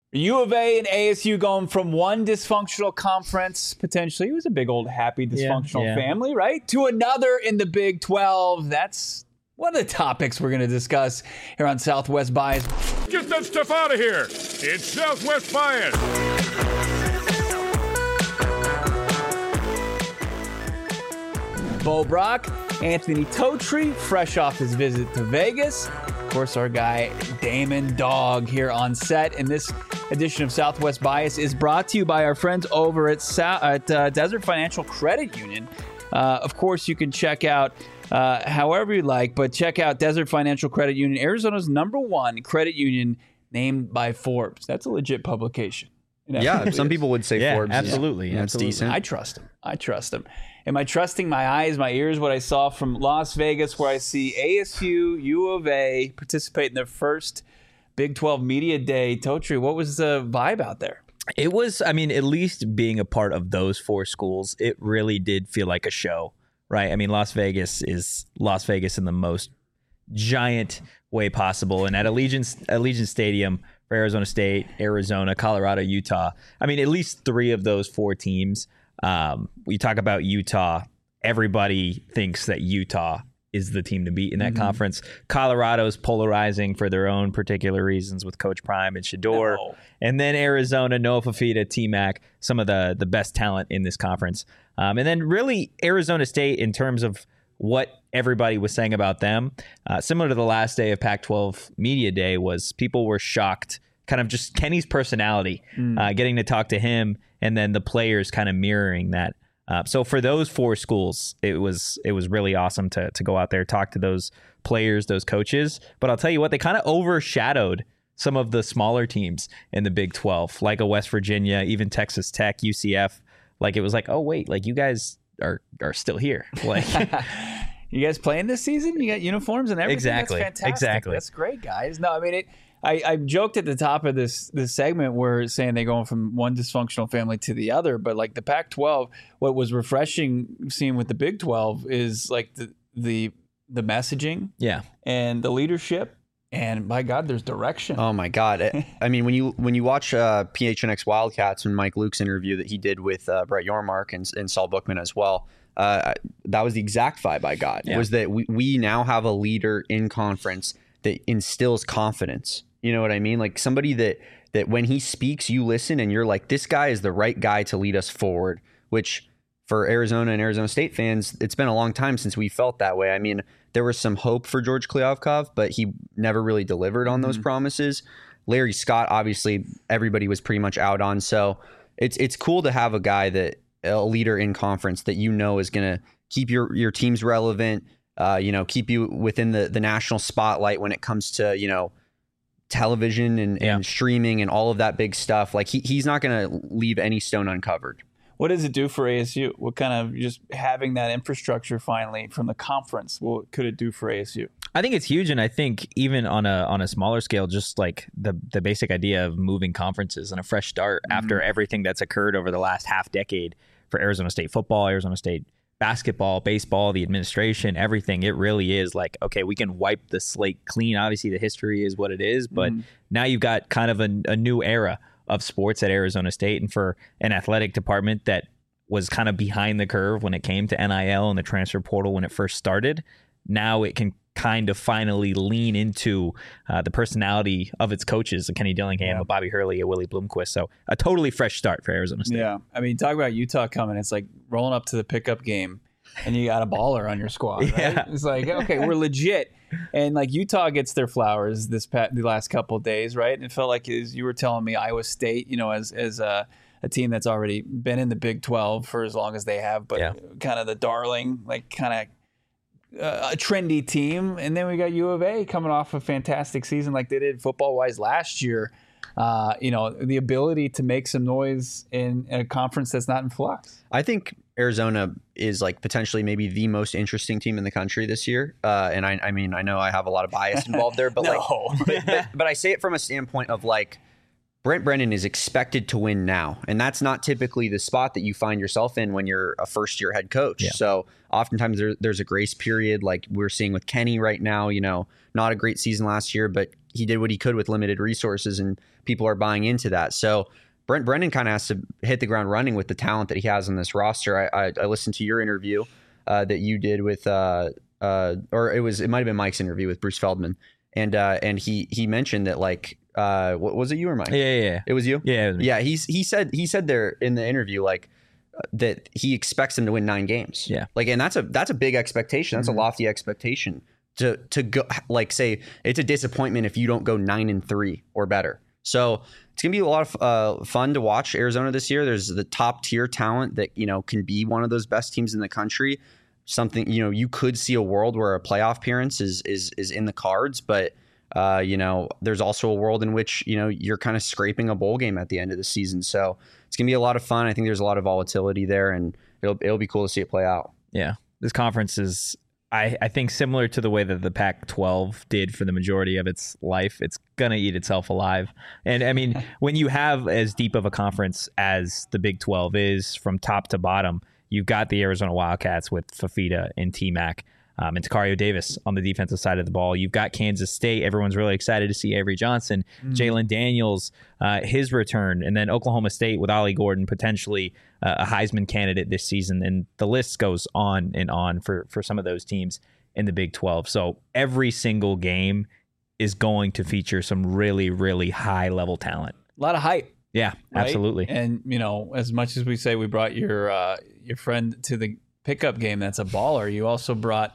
U of A and ASU going from one dysfunctional conference, potentially, it was a big old happy dysfunctional family, right? To another in the Big 12. That's one of the topics we're going to discuss here on Southwest Bias. Get that stuff out of here. It's Southwest Bias. Bo Brock, Anthony Totri, fresh off his visit to Vegas. Of course, our guy Damon Dog here on set. And this edition of Southwest Bias is brought to you by our friends over at Desert Financial Credit Union. Of course, you can check out however you like, but check out Desert Financial Credit Union, Arizona's #1 credit union named by Forbes. That's a legit publication. Yeah, some people would say Forbes. Absolutely. That's decent. I trust him. Am I trusting my eyes, my ears, what I saw from Las Vegas, where I see ASU, U of A participate in their first Big 12 Media Day? Totri, what was the vibe out there? It was, at least being a part of those 4 schools, it really did feel like a show, right? Las Vegas is Las Vegas in the most giant way possible. And at Allegiant Stadium for Arizona State, Arizona, Colorado, Utah, at least 3 of those 4 teams. We talk about Utah. Everybody thinks that Utah is the team to beat in that conference. Colorado's polarizing for their own particular reasons with Coach Prime and Shador. No. And then Arizona, Noah Fafita, T-Mac, some of the best talent in this conference. And then really Arizona State in terms of what everybody was saying about them, similar to the last day of Pac-12 Media Day, was people were shocked, kind of just Kenny's personality, getting to talk to him, and then the players kind of mirroring that. So for those 4 schools, it was really awesome to go out there, talk to those players, those coaches. But I'll tell you what, they kind of overshadowed some of the smaller teams in the Big 12, like a West Virginia, even Texas Tech, UCF. Like it was like, oh wait, like you guys are still here. Like you guys playing this season? You got uniforms and everything? Exactly. That's fantastic. Exactly. That's great, guys. No, I joked at the top of this segment where saying they're going from one dysfunctional family to the other, but like the Pac-12, what was refreshing seeing with the Big 12 is like the messaging, and the leadership, and by God, there's direction. Oh my God! When you watch PHNX Wildcats and Mike Luke's interview that he did with Brett Yormark and Saul Bookman as well, that was the exact vibe I got. Was that we now have a leader in conference that instills confidence. You know what I mean? Like somebody that when he speaks, you listen and you're like, this guy is the right guy to lead us forward, which for Arizona and Arizona State fans, it's been a long time since we felt that way. There was some hope for George Kliavkov, but he never really delivered on those promises. Larry Scott, obviously, everybody was pretty much out on. So it's cool to have a guy a leader in conference that is going to keep your teams relevant, keep you within the national spotlight when it comes to, television and streaming and all of that big stuff. Like he's not going to leave any stone uncovered. What does it do for ASU? What kind of just having that infrastructure finally from the conference? What could it do for ASU? I think it's huge, and I think even on a smaller scale, just like the basic idea of moving conferences and a fresh start after everything that's occurred over the last half decade for Arizona State football, Arizona State basketball, baseball, the administration, everything. It really is like, okay, we can wipe the slate clean. Obviously, the history is what it is, but now you've got kind of a new era of sports at Arizona State, and for an athletic department that was kind of behind the curve when it came to NIL and the transfer portal when it first started. Now it can kind of finally lean into the personality of its coaches, a Kenny Dillingham, a Bobby Hurley, a Willie Bloomquist. So a totally fresh start for Arizona State. Yeah. Talk about Utah coming. It's like rolling up to the pickup game and you got a baller on your squad, right? Yeah. It's like, okay, we're legit. And like Utah gets their flowers the last couple of days, right? And it felt like, as you were telling me, Iowa State, as a team that's already been in the Big 12 for as long as they have, but kind of the darling, like kind of a trendy team. And then we got U of A coming off a fantastic season like they did football-wise last year. The ability to make some noise in a conference that's not in flux. I think Arizona is like potentially maybe the most interesting team in the country this year. And I know I have a lot of bias involved there, but No. but I say it from a standpoint of like, Brent Brennan is expected to win now, and that's not typically the spot that you find yourself in when you're a first-year head coach. Yeah. So oftentimes there's a grace period, like we're seeing with Kenny right now. Not a great season last year, but he did what he could with limited resources, and people are buying into that. So Brent Brennan kind of has to hit the ground running with the talent that he has on this roster. I listened to your interview that you did with, or it might have been Mike's interview with Bruce Feldman, and he mentioned that what was it, you or Mike? Yeah. It was you? Yeah, it was me. Yeah, he said there in the interview that he expects them to win 9 games. Yeah. And that's a big expectation. That's a lofty expectation to go, say it's a disappointment if you don't go 9-3 or better. So it's going to be a lot of fun to watch Arizona this year. There's the top tier talent that, can be one of those best teams in the country. Something, you could see a world where a playoff appearance is in the cards, but there's also a world in which, you're kind of scraping a bowl game at the end of the season. So it's going to be a lot of fun. I think there's a lot of volatility there, and it'll be cool to see it play out. Yeah. This conference is, I think, similar to the way that the Pac-12 did for the majority of its life. It's going to eat itself alive. And I mean, when you have as deep of a conference as the Big 12 is from top to bottom, you've got the Arizona Wildcats with Fafita and T-Mac. And Tacario Davis on the defensive side of the ball. You've got Kansas State. Everyone's really excited to see Avery Johnson, Jalen Daniels, his return, and then Oklahoma State with Ollie Gordon, potentially a Heisman candidate this season. And the list goes on and on for some of those teams in the Big 12. So every single game is going to feature some really, really high-level talent. A lot of hype. Yeah, right? absolutely. And, as much as we say we brought your friend to the pickup game that's a baller, you also brought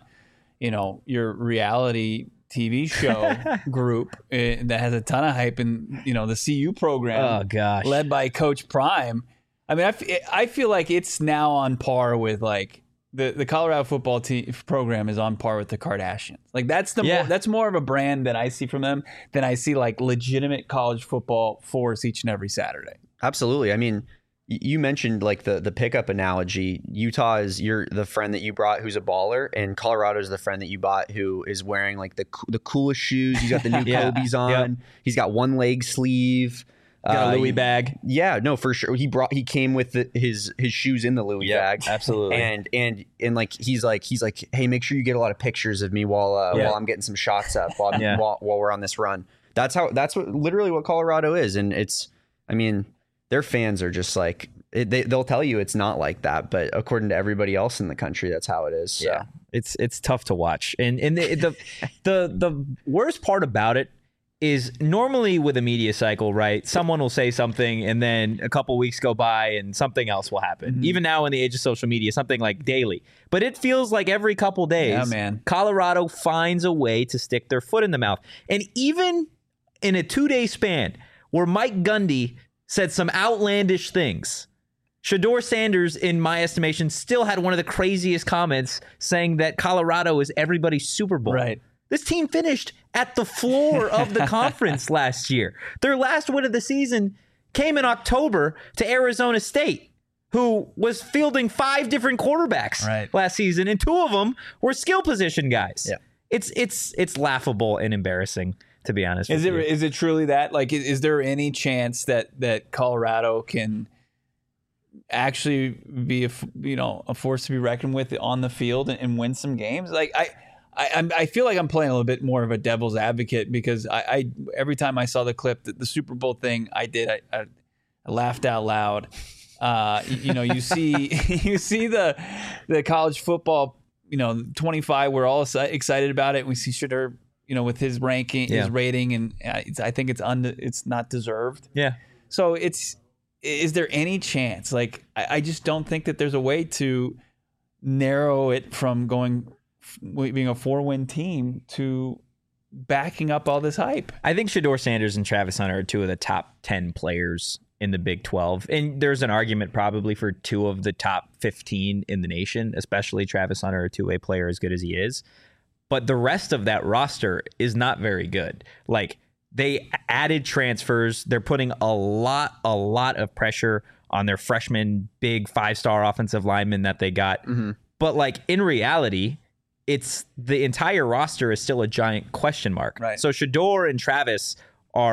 your reality TV show group that has a ton of hype in, the CU program. Oh, gosh. Led by Coach Prime. I mean, I feel like it's now on par with the Colorado football program is on par with the Kardashians. That's more of a brand that I see from them than I see legitimate college football force each and every Saturday. Absolutely. I mean, you mentioned the pickup analogy. Utah is the friend that you brought who's a baller, and Colorado is the friend that you bought who is wearing the coolest shoes. He's got the new Kobe's on. Yep. He's got one leg sleeve. Got a Louis bag. Yeah, no, for sure. He came with his shoes in the Louis bag. Absolutely. And he's like, hey, make sure you get a lot of pictures of me while I'm getting some shots up while we're on this run. That's literally what Colorado is, and their fans are just they'll tell you it's not like that, but according to everybody else in the country, that's how it is. So. Yeah, it's tough to watch, and the worst part about it is normally with a media cycle, right? Someone will say something, and then a couple weeks go by, and something else will happen. Mm-hmm. Even now in the age of social media, something like daily, but it feels like every couple days, Colorado finds a way to stick their foot in the mouth, and even in a 2-day span where Mike Gundy said some outlandish things, Shedeur Sanders, in my estimation, still had one of the craziest comments saying that Colorado is everybody's Super Bowl. Right. This team finished at the floor of the conference last year. Their last win of the season came in October to Arizona State, who was fielding 5 different quarterbacks last season, and 2 of them were skill position guys. Yeah. It's laughable and embarrassing, to be honest. Is it truly that? Is there any chance that Colorado can actually be a force to be reckoned with on the field and win some games? I feel like I'm playing a little bit more of a devil's advocate, because I every time I saw the clip, the Super Bowl thing, I laughed out loud. You see the college football, 25. We're all excited about it. We see Shedeur, with his ranking, his rating, and I think it's not deserved. Yeah. So is there any chance? I just don't think that there's a way to narrow it from being a 4-win team to backing up all this hype. I think Shedeur Sanders and Travis Hunter are 2 of the top 10 players in the Big 12. And there's an argument probably for 2 of the top 15 in the nation, especially Travis Hunter, a 2-way player as good as he is. But the rest of that roster is not very good. They added transfers. They're putting a lot of pressure on their freshman big 5-star offensive lineman that they got. Mm-hmm. But in reality, it's the entire roster is still a giant question mark. Right. So Shedeur and Travis are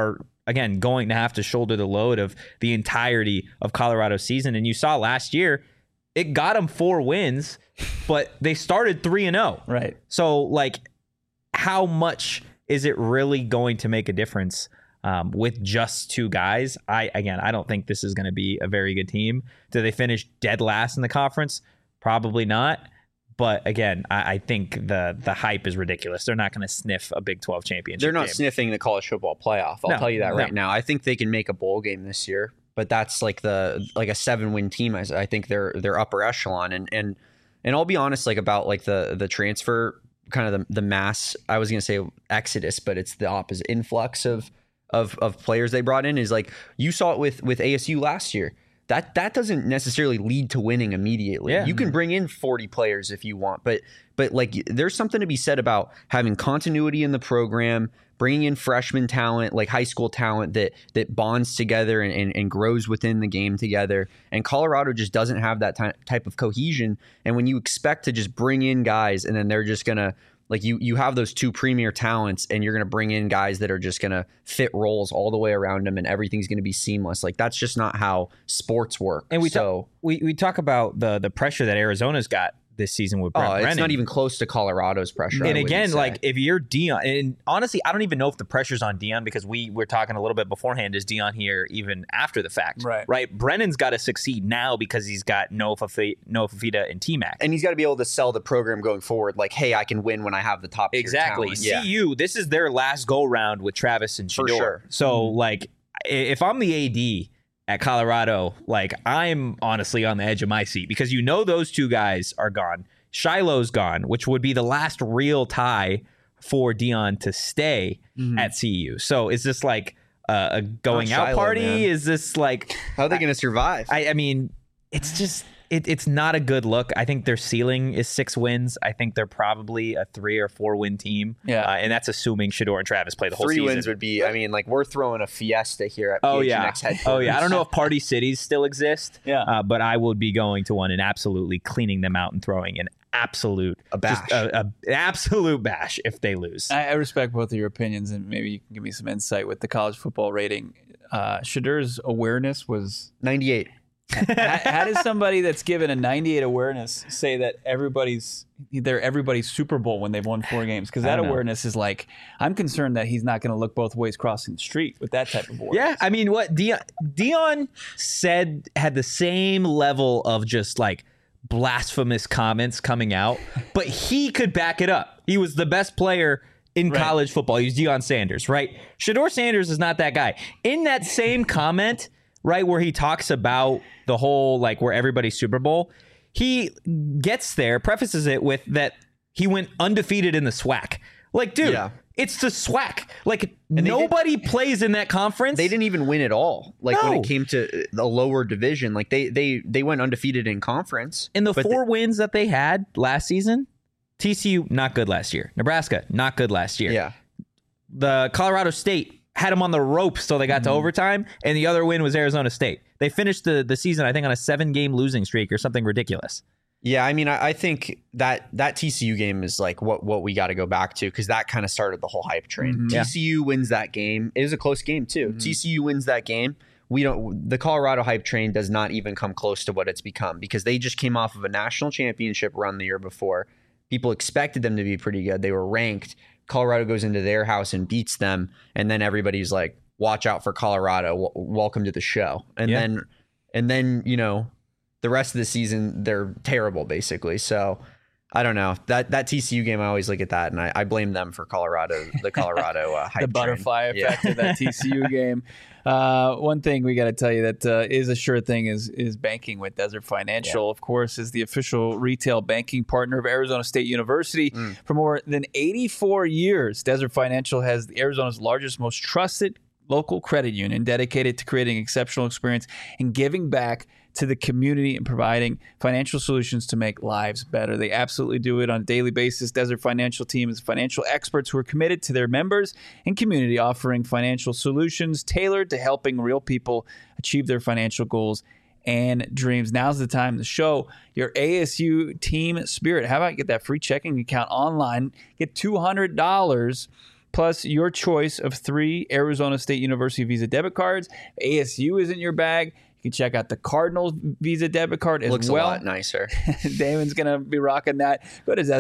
again, going to have to shoulder the load of the entirety of Colorado's season. And you saw last year, it got them 4 wins, but they started 3-0. Right. So, like, how much is it really going to make a difference with just 2 guys? I don't think this is going to be a very good team. Do they finish dead last in the conference? Probably not. But again, I think the hype is ridiculous. They're not going to sniff a Big 12 championship. They're not game. sniffing the college football playoff. I'll tell you that right now. I think they can make a bowl game this year, but that's like a 7-win team. I think they're upper echelon. And I'll be honest, like, about like the transfer, kind of the mass, I was going to say exodus, but it's the opposite, influx of players they brought in, is like, you saw it with ASU last year. That doesn't necessarily lead to winning immediately. Yeah. You can bring in 40 players if you want, but like, there's something to be said about having continuity in the program, bringing in freshman talent, like high school talent that bonds together and grows within the game together. And Colorado just doesn't have that type of cohesion. And when you expect to just bring in guys and then they're just gonna, like, you have those 2 premier talents and you're going to bring in guys that are just going to fit roles all the way around them and everything's going to be seamless. Like, that's just not how sports work. And we talk about the pressure that Arizona's got this season with Brent Brennan. It's not even close to Colorado's pressure. And again, like, if you're Dion, and honestly, I don't even know if the pressure's on Dion, because we're talking a little bit beforehand. Is Dion here even after the fact? Right. Brennan's got to succeed now because he's got Noah Fafita and T-Mac. And he's got to be able to sell the program going forward. Like, hey, I can win when I have the top tier Exactly. talent. CU, this is their last go round with Travis and Shedeur. Sure. So, like, if I'm the AD at Colorado, like, I'm honestly on the edge of my seat, because those 2 guys are gone. Shiloh's gone, which would be the last real tie for Dion to stay at CU. So is this like a going out party? Man. Is this like, how are they going to survive? I mean, it's just it's not a good look. I think their ceiling is 6 wins. I think they're probably a 3 or 4 win team. Yeah, and that's assuming Shedeur and Travis play the whole 3 season. 3 wins would be. I mean, like, we're throwing a fiesta here at PHNX headquarters. Oh yeah, I don't know if Party Cities still exist. Yeah, but I would be going to one and absolutely cleaning them out and throwing an absolute bash, an absolute bash if they lose. I respect both of your opinions, and maybe you can give me some insight with the college football rating. Shedeur's awareness was 98. How does somebody that's given a 98 awareness say that they're everybody's Super Bowl when they've won 4 games? Because that awareness is like, I'm concerned that he's not going to look both ways crossing the street with that type of awareness. Yeah, I mean, what Dion said had the same level of just like blasphemous comments coming out, but he could back it up. He was the best player in college football. He was Deion Sanders, right? Shedeur Sanders is not that guy. In that same comment, right, where he talks about the whole, like, where everybody's Super Bowl, he gets there, prefaces it with that he went undefeated in the SWAC. Like, dude, it's the SWAC. Like, nobody plays in that conference. They didn't even win at all. Like, when it came to the lower division, like, they went undefeated in conference. In the 4 wins that they had last season, TCU, not good last year. Nebraska, not good last year. Yeah. The Colorado State had them on the ropes till they got to overtime, and the other win was Arizona State. They finished the season, I think, on a 7-game losing streak or something ridiculous. Yeah, I mean, I think that TCU game is like what we got to go back to, because that kind of started the whole hype train. TCU wins that game. It was a close game too. TCU wins that game. The Colorado hype train does not even come close to what it's become, because they just came off of a national championship run the year before. People expected them to be pretty good. They were ranked. Colorado goes into their house and beats them, and then everybody's like, watch out for Colorado. Welcome to the show. And then the rest of the season, they're terrible, basically. So I don't know. That TCU game, I always look at that, and I blame them for the Colorado hype the butterfly effect of that TCU game. One thing we got to tell you that is a sure thing is banking with Desert Financial. Of course, is the official retail banking partner of Arizona State University. For more than 84 years, Desert Financial has Arizona's largest, most trusted local credit union, dedicated to creating an exceptional experience and giving back to the community and providing financial solutions to make lives better. They absolutely do it on a daily basis. Desert Financial team is financial experts who are committed to their members and community, offering financial solutions tailored to helping real people achieve their financial goals and dreams. Now's the time to show your ASU team spirit. How about get that free checking account online? Get $200 plus your choice of 3 Arizona State University Visa debit cards. If ASU isn't your bag, you can check out the Cardinals Visa debit card as Looks well. a lot nicer. Damon's going to be rocking that. Go to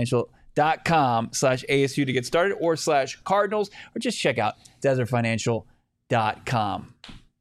DesertFinancial.com/ASU to get started, or /Cardinals, or just check out DesertFinancial.com.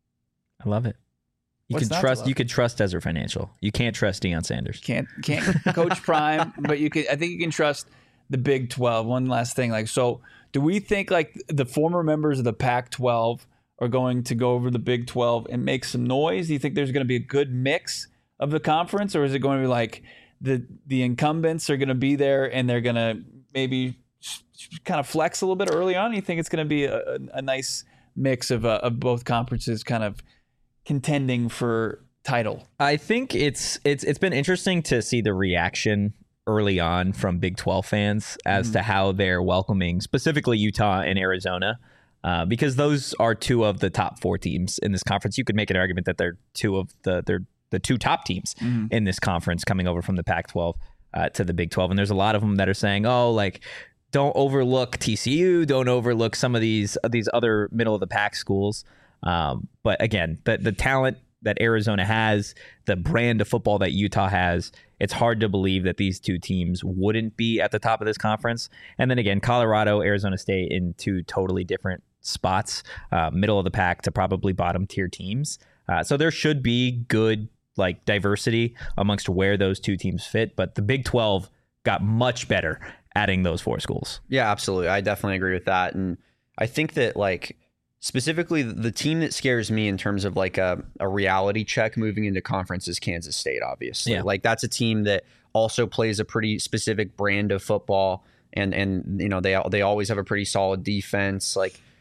I love it. You What's can not to trust. love? You could trust Desert Financial. You can't trust Deion Sanders. Can't coach Prime, but you can. I think you can trust the Big 12. One last thing, so do we think the former members of the Pac-12 are going to go over the Big 12 and make some noise? Do you think there's going to be a good mix of the conference, or is it going to be like the incumbents are going to be there and they're going to maybe kind of flex a little bit early on? You think it's going to be a nice mix of both conferences kind of contending for title? I think it's been interesting to see the reaction early on from Big 12 fans as to how they're welcoming specifically Utah and Arizona, because those are 2 of the top 4 teams in this conference. You could make an argument that they're 2 of the 2 top teams in this conference coming over from the Pac-12 to the Big 12. And there's a lot of them that are saying, don't overlook TCU, don't overlook some of these other middle of the pack schools. But again, the talent that Arizona has, the brand of football that Utah has, it's hard to believe that these 2 teams wouldn't be at the top of this conference. And then again, Colorado, Arizona State in 2 totally different spots, middle of the pack to probably bottom tier teams. So there should be good diversity amongst where those 2 teams fit. But the Big 12 got much better adding those 4 schools. Yeah, absolutely. I definitely agree with that. And I think that specifically the team that scares me in terms of a reality check moving into conference is Kansas State, obviously. Yeah. That's a team that also plays a pretty specific brand of football, and they always have a pretty solid defense.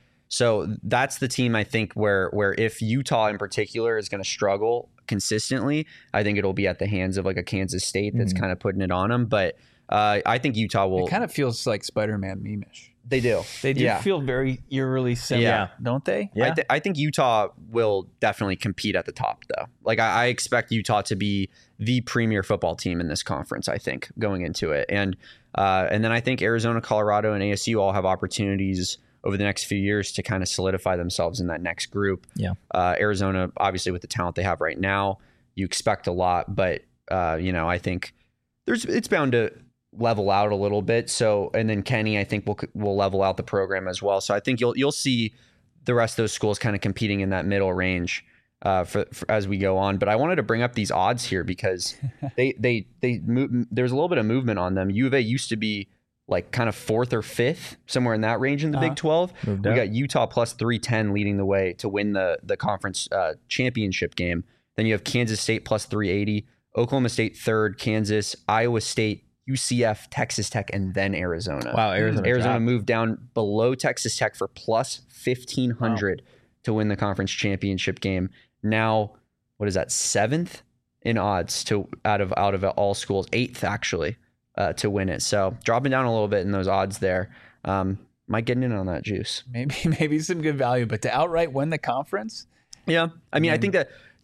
So that's the team I think where if Utah in particular is going to struggle consistently, I think it'll be at the hands of a Kansas State that's kind of putting it on them. But I think Utah will. It kind of feels like Spider-Man meme-ish. They do. They do feel very eerily similar, don't they? Yeah. I think Utah will definitely compete at the top, though. I expect Utah to be the premier football team in this conference, I think, going into it. And then I think Arizona, Colorado, and ASU all have opportunities over the next few years to kind of solidify themselves in that next group. Yeah. Arizona, obviously, with the talent they have right now, you expect a lot. But, I think it's bound to level out a little bit. So, and then Kenny, I think will level out the program as well. So I think you'll see the rest of those schools kind of competing in that middle range for as we go on. But I wanted to bring up these odds here because there's a little bit of movement on them. U of A used to be kind of 4th or 5th, somewhere in that range in the Big 12. We got Utah plus 310 leading the way to win the conference championship game. Then you have Kansas State plus 380, Oklahoma State 3rd, Kansas, Iowa State, UCF, Texas Tech, and then Arizona. Wow, Arizona moved down below Texas Tech for plus 1,500 to win the conference championship game. Now, what is that, 7th in odds out of all schools, 8th actually to win it. So dropping down a little bit in those odds there. Might get in on that juice. Maybe some good value, but to outright win the conference? Yeah, I mean, I think that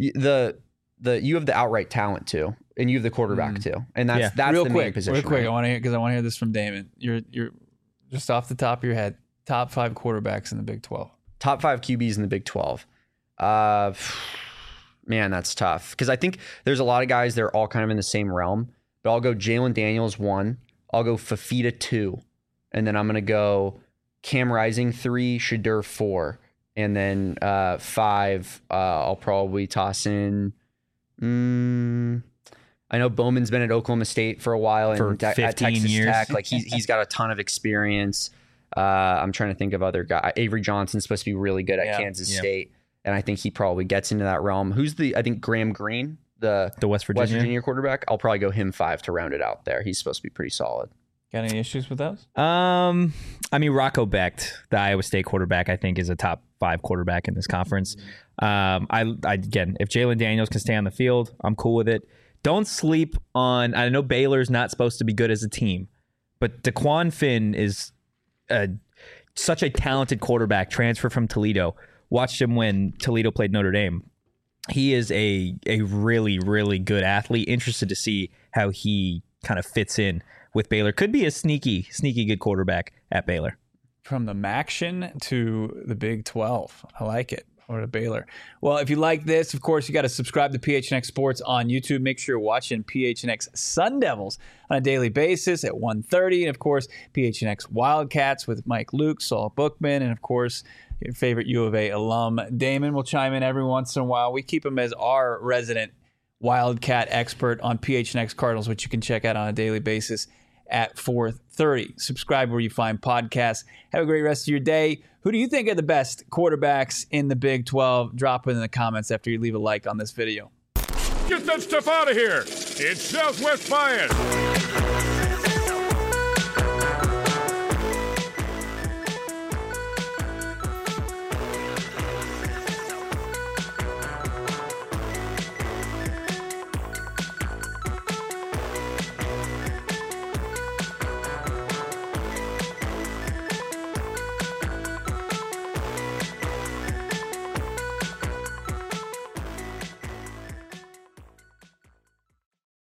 you have the outright talent too. And you have the quarterback too, and that's the main position. Real quick, right? I want to hear this from Damon. You're just off the top of your head. Top 5 quarterbacks in the Big 12. Top 5 QBs in the Big 12. Man, that's tough because I think there's a lot of guys that are all kind of in the same realm. But I'll go Jalen Daniels 1. I'll go Fafita 2, and then I'm gonna go Cam Rising 3, Shedeur 4, and then 5. I'll probably toss in. I know Bowman's been at Oklahoma State for a while and for 15 at Texas years. Tech. He's got a ton of experience. I'm trying to think of other guys. Avery Johnson's supposed to be really good at Kansas State, and I think he probably gets into that realm. I think Graham Green, the West Virginia quarterback. I'll probably go him 5 to round it out there. He's supposed to be pretty solid. Got any issues with those? I mean, Rocco Becht, the Iowa State quarterback, I think is a top 5 quarterback in this conference. Again, if Jalen Daniels can stay on the field, I'm cool with it. Don't sleep on. I know Baylor's not supposed to be good as a team, but DeQuan Finn is such a talented quarterback. Transfer from Toledo. Watched him when Toledo played Notre Dame. He is a really, really good athlete. Interested to see how he kind of fits in with Baylor. Could be a sneaky good quarterback at Baylor. from the Maction to the Big 12. I like it. Or to Baylor. Well, if you like this, of course, you got to subscribe to PHNX Sports on YouTube. Make sure you're watching PHNX Sun Devils on a daily basis at 1:30. And, of course, PHNX Wildcats with Mike Luke, Saul Bookman, and, of course, your favorite U of A alum, Damon, will chime in every once in a while. We keep him as our resident Wildcat expert on PHNX Cardinals, which you can check out on a daily basis at 4:30. Subscribe where you find podcasts. Have a great rest of your day. Who do you think are the best quarterbacks in the Big 12? Drop it in the comments after you leave a like on this video. Get that stuff out of here. It's Southwest Bias.